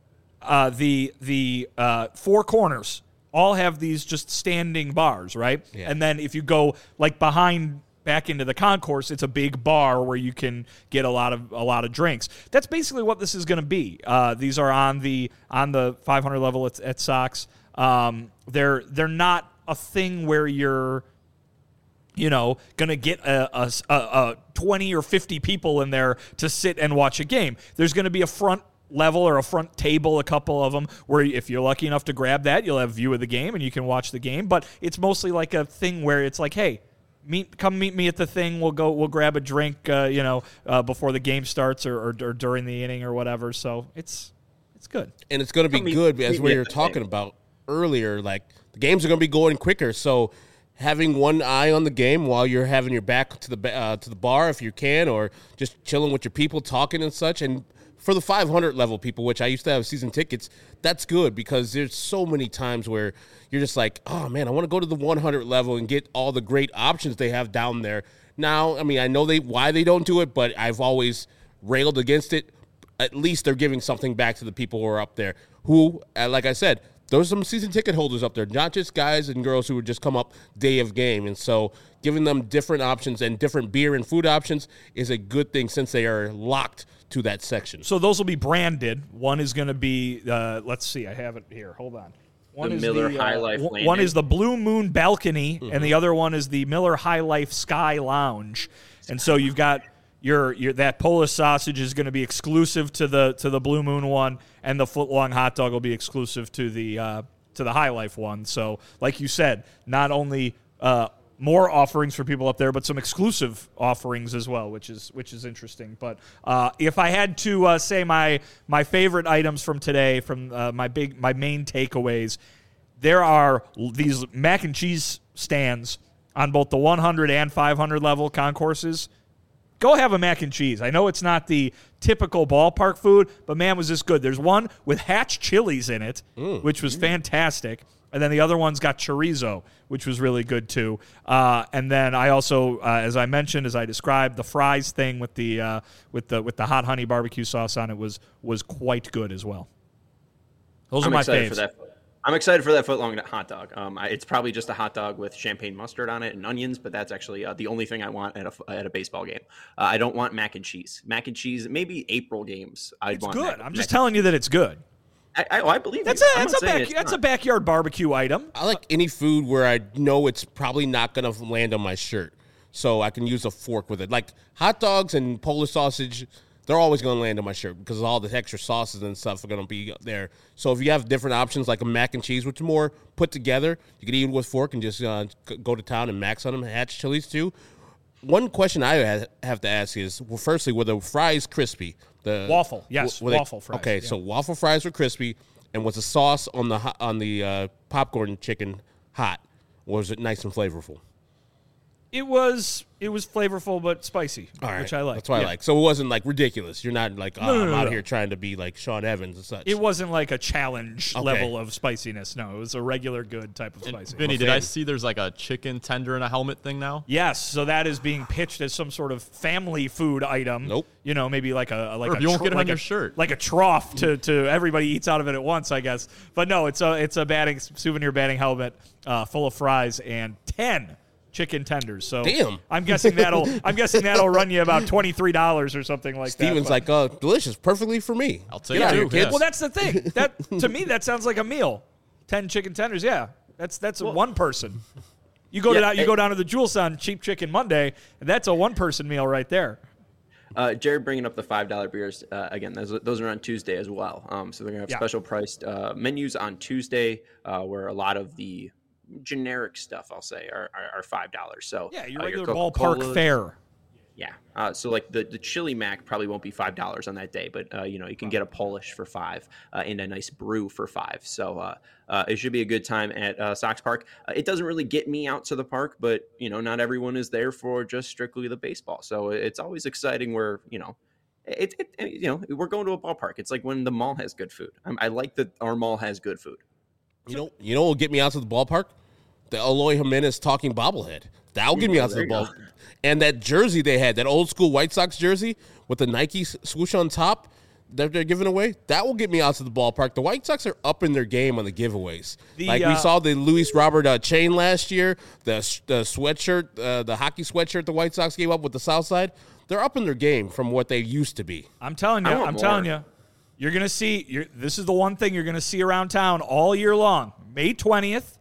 The four corners all have these just standing bars, right? Yeah. And then if you go back into the concourse, it's a big bar where you can get a lot of drinks. That's basically what this is going to be. These are on the 500 level at Sox. They're not a thing where you're going to get a 20 or 50 people in there to sit and watch a game. There's going to be a front level or a front table, a couple of them, where if you're lucky enough to grab that, you'll have view of the game and you can watch the game. But it's mostly like a thing where it's like, hey, come meet me at the thing. We'll grab a drink, before the game starts or during the inning or whatever. So it's good. And it's going to be good as we were talking about earlier. Like the games are going to be going quicker, so having one eye on the game while you're having your back to the bar if you can, or just chilling with your people, talking and such. And for the 500 level people, which I used to have season tickets, that's good because there's so many times where you're just like, oh, man, I want to go to the 100 level and get all the great options they have down there. Now, I mean, I know why they don't do it, but I've always railed against it. At least they're giving something back to the people who are up there who, like I said, there's some season ticket holders up there, not just guys and girls who would just come up day of game. And so giving them different options and different beer and food options is a good thing since they are locked to that section. So those will be branded. One is going to be, let's see, I have it here. Hold on. One is Miller High Life Landing. One is the Blue Moon Balcony, and the other one is the Miller High Life Sky Lounge. And so you've got your that Polish sausage is going to be exclusive to the Blue Moon one, and the footlong hot dog will be exclusive to the High Life one. So, like you said, not only more offerings for people up there, but some exclusive offerings as well, which is interesting. But if I had to say my favorite items from today, from my main takeaways, there are these mac and cheese stands on both the 100 and 500 level concourses. Go have a mac and cheese. I know it's not the typical ballpark food, but man, was this good. There's one with Hatch chilies in it, which was fantastic. And then the other one's got chorizo, which was really good too. And then I also, as I mentioned, as I described, the fries thing with the hot honey barbecue sauce on it was quite good as well. Those are my faves. I'm excited for that footlong hot dog. It's probably just a hot dog with champagne mustard on it and onions, but that's actually the only thing I want at a baseball game. I don't want mac and cheese. Mac and cheese, maybe April games. It's good. I'm just telling you that it's good. I believe that's a backyard barbecue item. I like any food where I know it's probably not going to land on my shirt, so I can use a fork with it. Like hot dogs and Polish sausage, they're always going to land on my shirt because all the extra sauces and stuff are going to be there. So if you have different options like a mac and cheese, which is more put together, you can eat it with fork and just go to town and max on them. Hatch chilies too. One question I have to ask is, well, firstly, were the fries crispy? The waffle, yes, waffle fries. Okay, yeah. So waffle fries were crispy, and was the sauce on the popcorn chicken hot? Or was it nice and flavorful? It was flavorful but spicy, which I like. That's what I like. So it wasn't like ridiculous. You're not like I'm out here trying to be like Sean Evans and such. It wasn't like a challenge level of spiciness. No, it was a regular good type of spicy. Vinny, did I see there's like a chicken tender in a helmet thing now? Yes. So that is being pitched as some sort of family food item. Nope. You know, maybe like a you won't get it on your shirt, like a trough to everybody eats out of it at once, I guess. But no, it's a souvenir batting helmet full of fries and 10 chicken tenders. So damn. I'm guessing that'll run you about $23 or something like Steven's that. Steven's like, delicious, perfectly for me. I'll take it too. Kids. Well, that's the thing. That to me that sounds like a meal. 10 chicken tenders, yeah. That's one person. You go down to the Jules on Cheap Chicken Monday, and that's a one-person meal right there. Jared bringing up the $5 beers again. Those are on Tuesday as well. So they're gonna have special priced menus on Tuesday, where a lot of the generic stuff, I'll say, are $5. So yeah, your regular ballpark fare. Yeah. So like the chili mac probably won't be $5 on that day, but you can get a Polish for $5 and a nice brew for $5. So it should be a good time at Sox Park. It doesn't really get me out to the park, but not everyone is there for just strictly the baseball. So it's always exciting where we're going to a ballpark. It's like when the mall has good food. I like that our mall has good food. You know what will get me out to the ballpark? The Eloy Jimenez talking bobblehead. That'll get me out to the ball. And that jersey they had, that old school White Sox jersey with the Nike swoosh on top that they're giving away, that will get me out to the ballpark. The White Sox are up in their game on the giveaways. We saw the Luis Robert chain last year, the sweatshirt, the hockey sweatshirt the White Sox gave up with the South Side. They're up in their game from what they used to be. I'm telling you. You're going to see, this is the one thing you're going to see around town all year long. May 20th,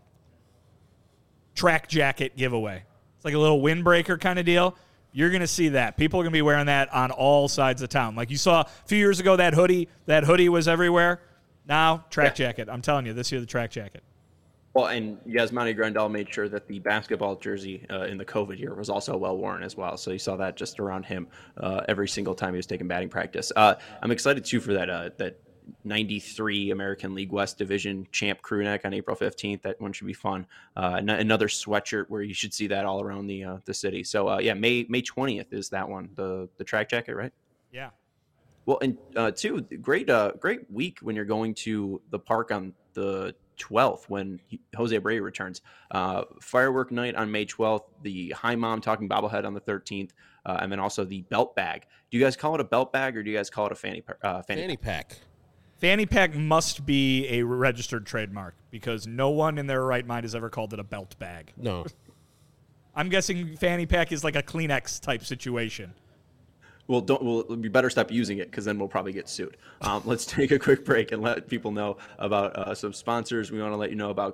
track jacket giveaway. It's like a little windbreaker kind of deal. You're going to see that. People are going to be wearing that on all sides of town. Like you saw a few years ago, that hoodie was everywhere. Now, track jacket. I'm telling you, this year, the track jacket. Well, and Yasmani Grandal made sure that the basketball jersey in the COVID year was also well worn as well. So you saw that just around him every single time he was taking batting practice. I'm excited too for that 93 American League West Division champ crew neck on April 15th. That one should be fun. Another sweatshirt where you should see that all around the city. So May 20th is that one, the track jacket, right? Yeah. Well, and two, great week when you're going to the park on the 12th when Jose Abreu returns. Firework night on May 12th, the Hi Mom Talking Bobblehead on the 13th, and then also the belt bag. Do you guys call it a belt bag or do you guys call it a fanny pack? Fanny pack must be a registered trademark because no one in their right mind has ever called it a belt bag. No. I'm guessing fanny pack is like a Kleenex type situation. Well, we better stop using it because then we'll probably get sued. Let's take a quick break and let people know about some sponsors. We want to let you know about.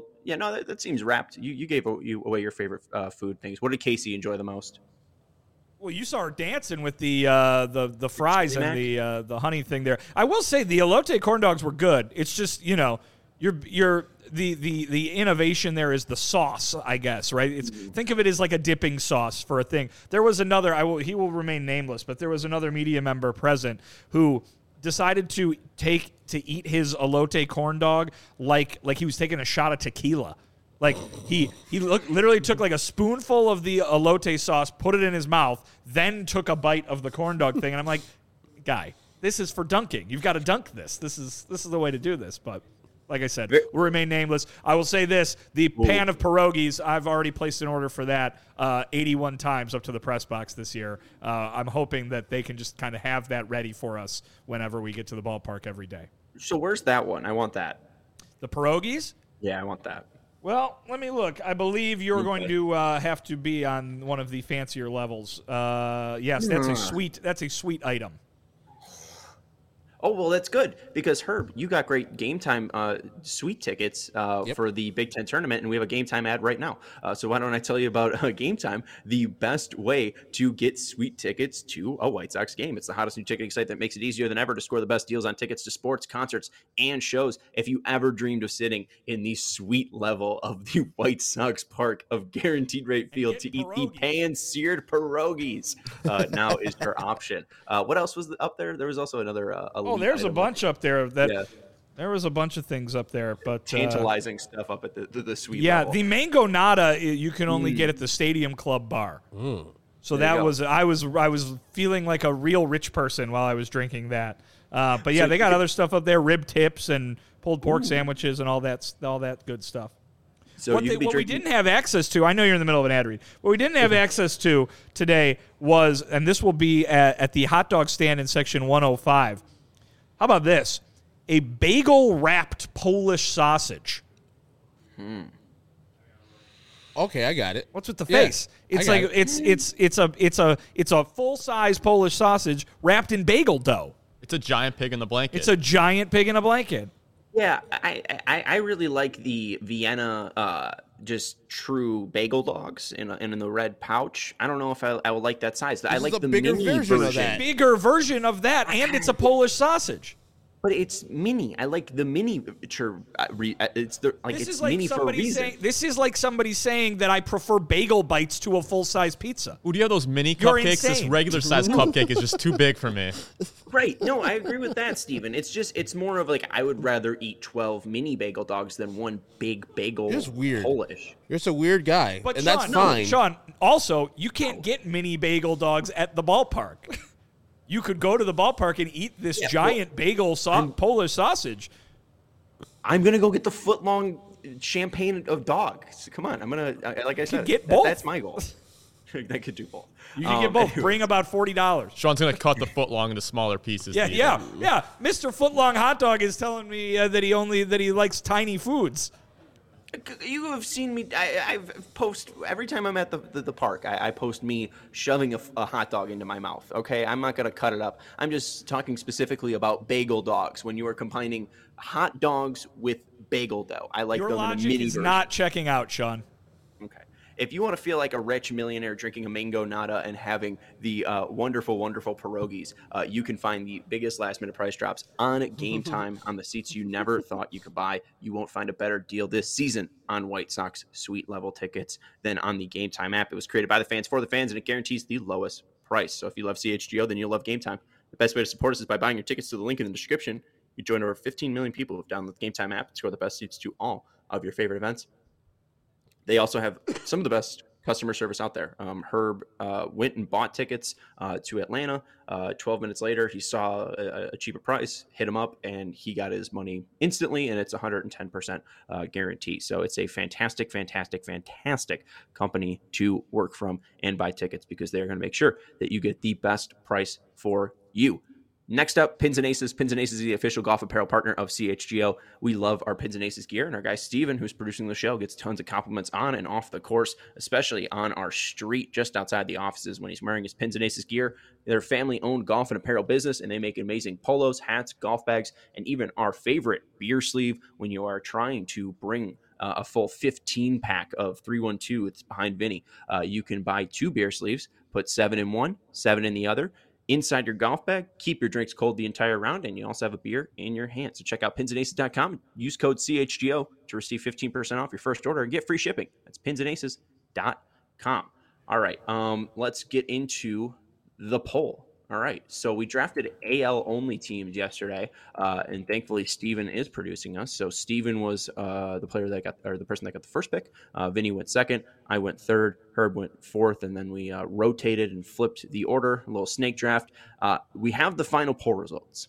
That seems wrapped. You gave away your favorite food things. What did Casey enjoy the most? Well, you saw her dancing with the fries and the honey thing there. I will say the elote corn dogs were good. It's just, the innovation there is the sauce, I guess, right? Think of it as like a dipping sauce for a thing. There was another, he will remain nameless, but there was another media member present who decided to eat his elote corn dog like he was taking a shot of tequila. Like he literally took like a spoonful of the elote sauce, put it in his mouth, then took a bite of the corn dog thing, and I'm like, guy, this is for dunking. You've got to dunk this. This is the way to do this. But like I said, we'll remain nameless. I will say this: the pan of pierogies, I've already placed an order for that 81 times up to the press box this year. I'm hoping that they can just kind of have that ready for us whenever we get to the ballpark every day. So where's that one? I want that. The pierogies? Yeah, I want that. Well, let me look. I believe you're going to have to be on one of the fancier levels. Yes, that's a sweet item. Oh, well, that's good because, Herb, you got great Game Time suite tickets for the Big Ten tournament, and we have a Game Time ad right now. So why don't I tell you about Game Time, the best way to get sweet tickets to a White Sox game. It's the hottest new ticketing site that makes it easier than ever to score the best deals on tickets to sports, concerts, and shows. If you ever dreamed of sitting in the suite level of the White Sox park of Guaranteed Rate Field to eat the pan-seared pierogies, now is your option. What else was up there? There was also another there's a bunch up there there was a bunch of things up there, but tantalizing stuff up at the suite. Yeah, level. the mango nada you can only get at the Stadium Club bar. So that was I was feeling like a real rich person while I was drinking that. But yeah, they got other stuff up there, rib tips and pulled pork sandwiches and all that good stuff. So what we didn't have access to, I know you're in the middle of an ad read, what we didn't have access to today was, and this will be at the hot dog stand in section 105. How about this? A bagel-wrapped Polish sausage. Okay, I got it. What's with the face? It's a full-size Polish sausage wrapped in bagel dough. It's a giant pig in the blanket. It's a giant pig in a blanket. Yeah, I really like the Vienna just true bagel dogs in the red pouch. I don't know if I would like that size. I like the bigger mini version of that. Bigger version of that, and it's a Polish sausage. But it's mini. I like the miniature. It's mini for a reason. This is like somebody saying that I prefer bagel bites to a full-size pizza. Ooh, do you have those mini You're cupcakes? insane. This regular-sized cupcake is just too big for me. Right. No, I agree with that, Steven. It's more of like I would rather eat 12 mini bagel dogs than one big bagel. You're weird. Polish. You're just a weird guy, But and Sean, that's fine. Sean, also, you can't get mini bagel dogs at the ballpark. You could go to the ballpark and eat this giant bagel Polish sausage. I'm going to go get the foot-long champagne of dog. Come on. I'm going to, like I said, get both. That's my goal. I could do both. You can get both. Bring about $40. Sean's going to cut the foot long into smaller pieces. Yeah. Mr. Footlong Hot Dog is telling me that he likes tiny foods. You have seen me. I post every time I'm at the park. I post me shoving a hot dog into my mouth. Okay, I'm not gonna cut it up. I'm just talking specifically about bagel dogs. When you are combining hot dogs with bagel dough, I like Your them logic in a mini is version. not checking out, Sean. Okay. If you want to feel like a rich millionaire drinking a mango nada and having the wonderful, wonderful pierogies, you can find the biggest last-minute price drops on Game Time on the seats you never thought you could buy. You won't find a better deal this season on White Sox suite level tickets than on the Game Time app. It was created by the fans for the fans, and it guarantees the lowest price. So if you love CHGO, then you'll love Game Time. The best way to support us is by buying your tickets to the link in the description. You join over 15 million people who have downloaded the Game Time app and score the best seats to all of your favorite events. They also have some of the best customer service out there. Herb went and bought tickets to Atlanta. 12 minutes later, he saw a cheaper price, hit him up, and he got his money instantly, and it's 110% guarantee. So it's a fantastic, fantastic, fantastic company to work from and buy tickets because they're going to make sure that you get the best price for you. Next up, Pins and Aces. Pins and Aces is the official golf apparel partner of CHGO. We love our Pins and Aces gear, and our guy Steven, who's producing the show, gets tons of compliments on and off the course, especially on our street just outside the offices when he's wearing his Pins and Aces gear. They're a family-owned golf and apparel business, and they make amazing polos, hats, golf bags, and even our favorite beer sleeve when you are trying to bring a full 15 pack of 312. It's behind Vinny. You can buy 2 beer sleeves, put 7 in one, 7 in the other, inside your golf bag, keep your drinks cold the entire round, and you also have a beer in your hand. So check out pinsandaces.com. Use code CHGO to receive 15% off your first order and get free shipping. That's pinsandaces.com. All right, let's get into the poll. All right, so we drafted AL only teams yesterday, and thankfully Steven is producing us. So Steven was the person that got the first pick. Vinny went second. I went third. Herb went fourth, and then we rotated and flipped the order. A little snake draft. We have the final poll results.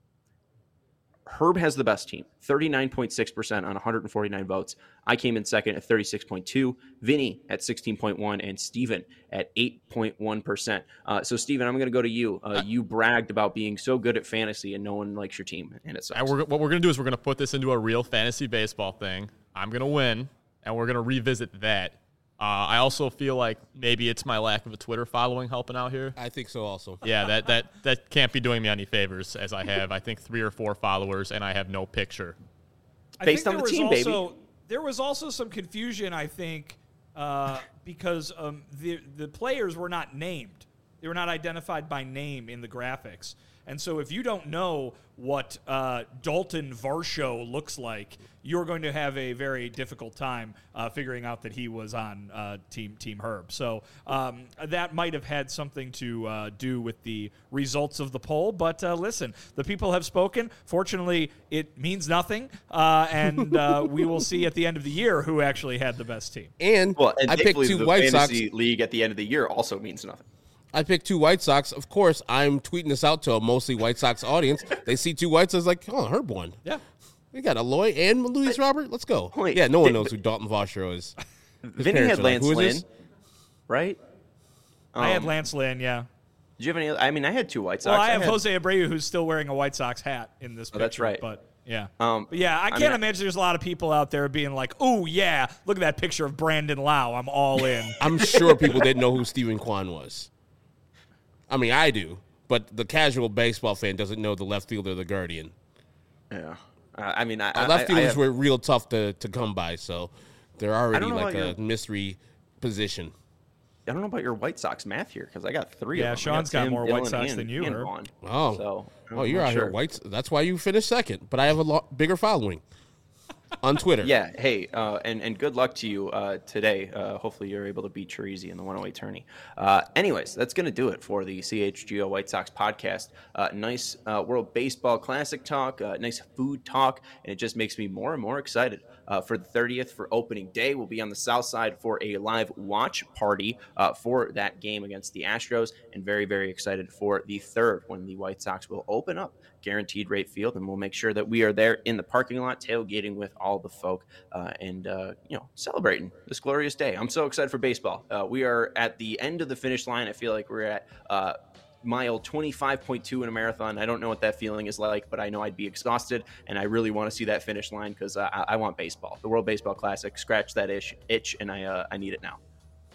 Herb has the best team, 39.6% on 149 votes. I came in second at 36.2%, Vinny at 16.1%, and Steven at 8.1%. So, Steven, I'm going to go to you. You bragged about being so good at fantasy and no one likes your team, and it sucks. And what we're going to do is we're going to put this into a real fantasy baseball thing. I'm going to win, and we're going to revisit that. I also feel like maybe it's my lack of a Twitter following helping out here. I think so also. Yeah, that can't be doing me any favors, as I have, I think, 3 or 4 followers, and I have no picture. Based on the team, baby. There was also some confusion, I think, because the players were not named. They were not identified by name in the graphics. And so if you don't know what Dalton Varsho looks like, you're going to have a very difficult time figuring out that he was on Team Herb. So that might have had something to do with the results of the poll. But listen, the people have spoken. Fortunately, it means nothing. And we will see at the end of the year who actually had the best team. And I picked 2 White Sox. The fantasy league at the end of the year also means nothing. I picked 2 White Sox. Of course, I'm tweeting this out to a mostly White Sox audience. They see 2 White Sox like, oh, Herb won. Yeah. We got Eloy and Luis Robert. Let's go. Wait, yeah, no one knows who Dalton Varsho is. Vinny had Lance Lynn, right? I had Lance Lynn, yeah. Did you have any? I mean, I had 2 White Sox. Well, I have Jose Abreu, who's still wearing a White Sox hat in this picture. That's right. But yeah. I can't imagine there's a lot of people out there being like, oh, yeah, look at that picture of Brandon Lau. I'm all in. I'm sure people didn't know who Stephen Kwan was. I mean, I do, but the casual baseball fan doesn't know the left fielder of the Guardian. Yeah. I mean, left fielders were real tough to come by, so they're already like a mystery position. I don't know about your White Sox math here because I got 3 of them. Yeah, Sean's got more White Sox than you, Herb. You're out here Whites. That's why you finished second, but I have a bigger following on Twitter. Yeah, hey, and good luck to you today. Hopefully you're able to beat Chirizi in the 108 tourney. Anyways, that's going to do it for the CHGO White Sox podcast. Nice World Baseball Classic talk, nice food talk, and it just makes me more and more excited. For the 30th, for opening day, we'll be on the south side for a live watch party for that game against the Astros, and very, very excited for the 3rd when the White Sox will open up Guaranteed Rate Field, and we'll make sure that we are there in the parking lot tailgating with all the folk and celebrating this glorious day. I'm so excited for baseball. We are at the end of the finish line. I feel like we're at mile 25.2 in a marathon. I don't know what that feeling is like, but I know I'd be exhausted, and I really want to see that finish line because I want baseball. The World Baseball Classic, scratch that itch, and I need it now.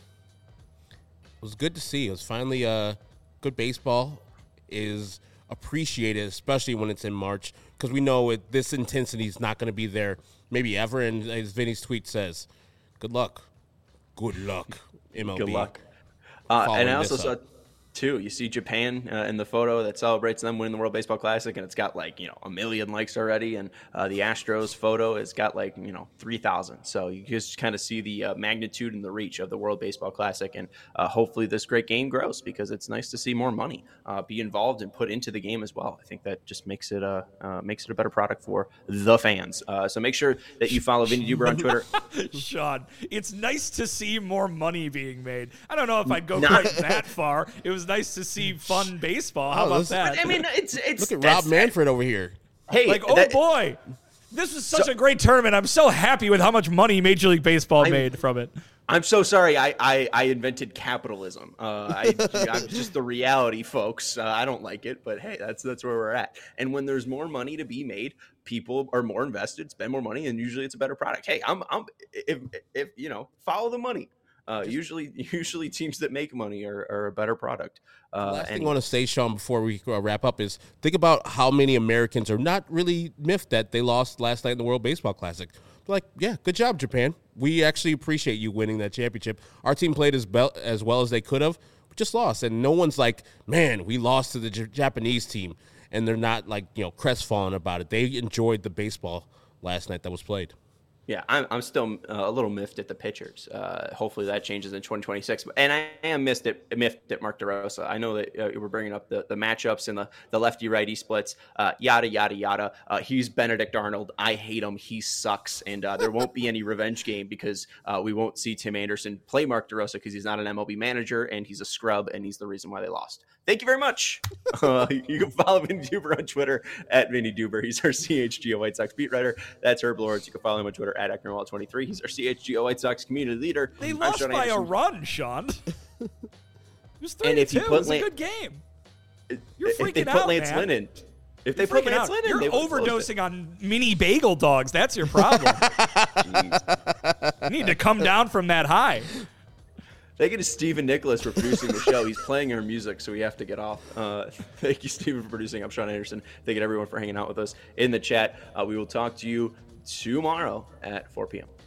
It was good to see. It was finally good baseball is appreciated, especially when it's in March, because we know this intensity is not going to be there maybe ever, and as Vinny's tweet says, good luck. Good luck, MLB. Good luck. And I also saw too, you see Japan in the photo that celebrates them winning the World Baseball Classic, and it's got 1 million likes already, and the Astros photo has got 3,000. So you just kind of see the magnitude and the reach of the World Baseball Classic, and hopefully this great game grows because it's nice to see more money be involved and put into the game as well. I think that just makes it a better product for the fans. So make sure that you follow Vinny Duber on Twitter. Sean, it's nice to see more money being made. I don't know if I'd go quite that far. It was nice to see fun baseball. How about that? I mean, it's look at Rob Manfred over here. Hey, boy, this was such a great tournament. I'm so happy with how much money Major League Baseball made from it. I'm so sorry. I invented capitalism. I'm just the reality, folks. I don't like it, but hey, that's where we're at. And when there's more money to be made, people are more invested, spend more money, and usually it's a better product. Hey, if follow the money. Usually teams that make money are a better product. Last thing I want to say, Sean, before we wrap up is think about how many Americans are not really miffed that they lost last night in the World Baseball Classic. Like, yeah, good job, Japan. We actually appreciate you winning that championship. Our team played as well as they could have, but just lost. And no one's like, man, we lost to the Japanese team. And they're not like, crestfallen about it. They enjoyed the baseball last night that was played. Yeah, I'm still a little miffed at the pitchers. Hopefully that changes in 2026. And I am miffed at Mark DeRosa. I know that we're bringing up the matchups and the lefty-righty splits, yada, yada, yada. He's Benedict Arnold. I hate him. He sucks. And there won't be any revenge game because we won't see Tim Anderson play Mark DeRosa because he's not an MLB manager and he's a scrub and he's the reason why they lost. Thank you very much. You can follow Vinny Duber on Twitter at Vinny Duber. He's our CHGO White Sox beat writer. That's Herb Lawrence. You can follow him on Twitter at Ecknerwall23. He's our CHGO White Sox community leader. They lost by a run, Sean. It was 3-2. It was a good game. You're freaking out, man. If they put Lance Lynn in, you're overdosing on mini bagel dogs. That's your problem. You need to come down from that high. Thank you to Stephen Nicholas for producing the show. He's playing our music, so we have to get off. Thank you, Stephen, for producing. I'm Sean Anderson. Thank you to everyone for hanging out with us in the chat. We will talk to you tomorrow at 4 p.m.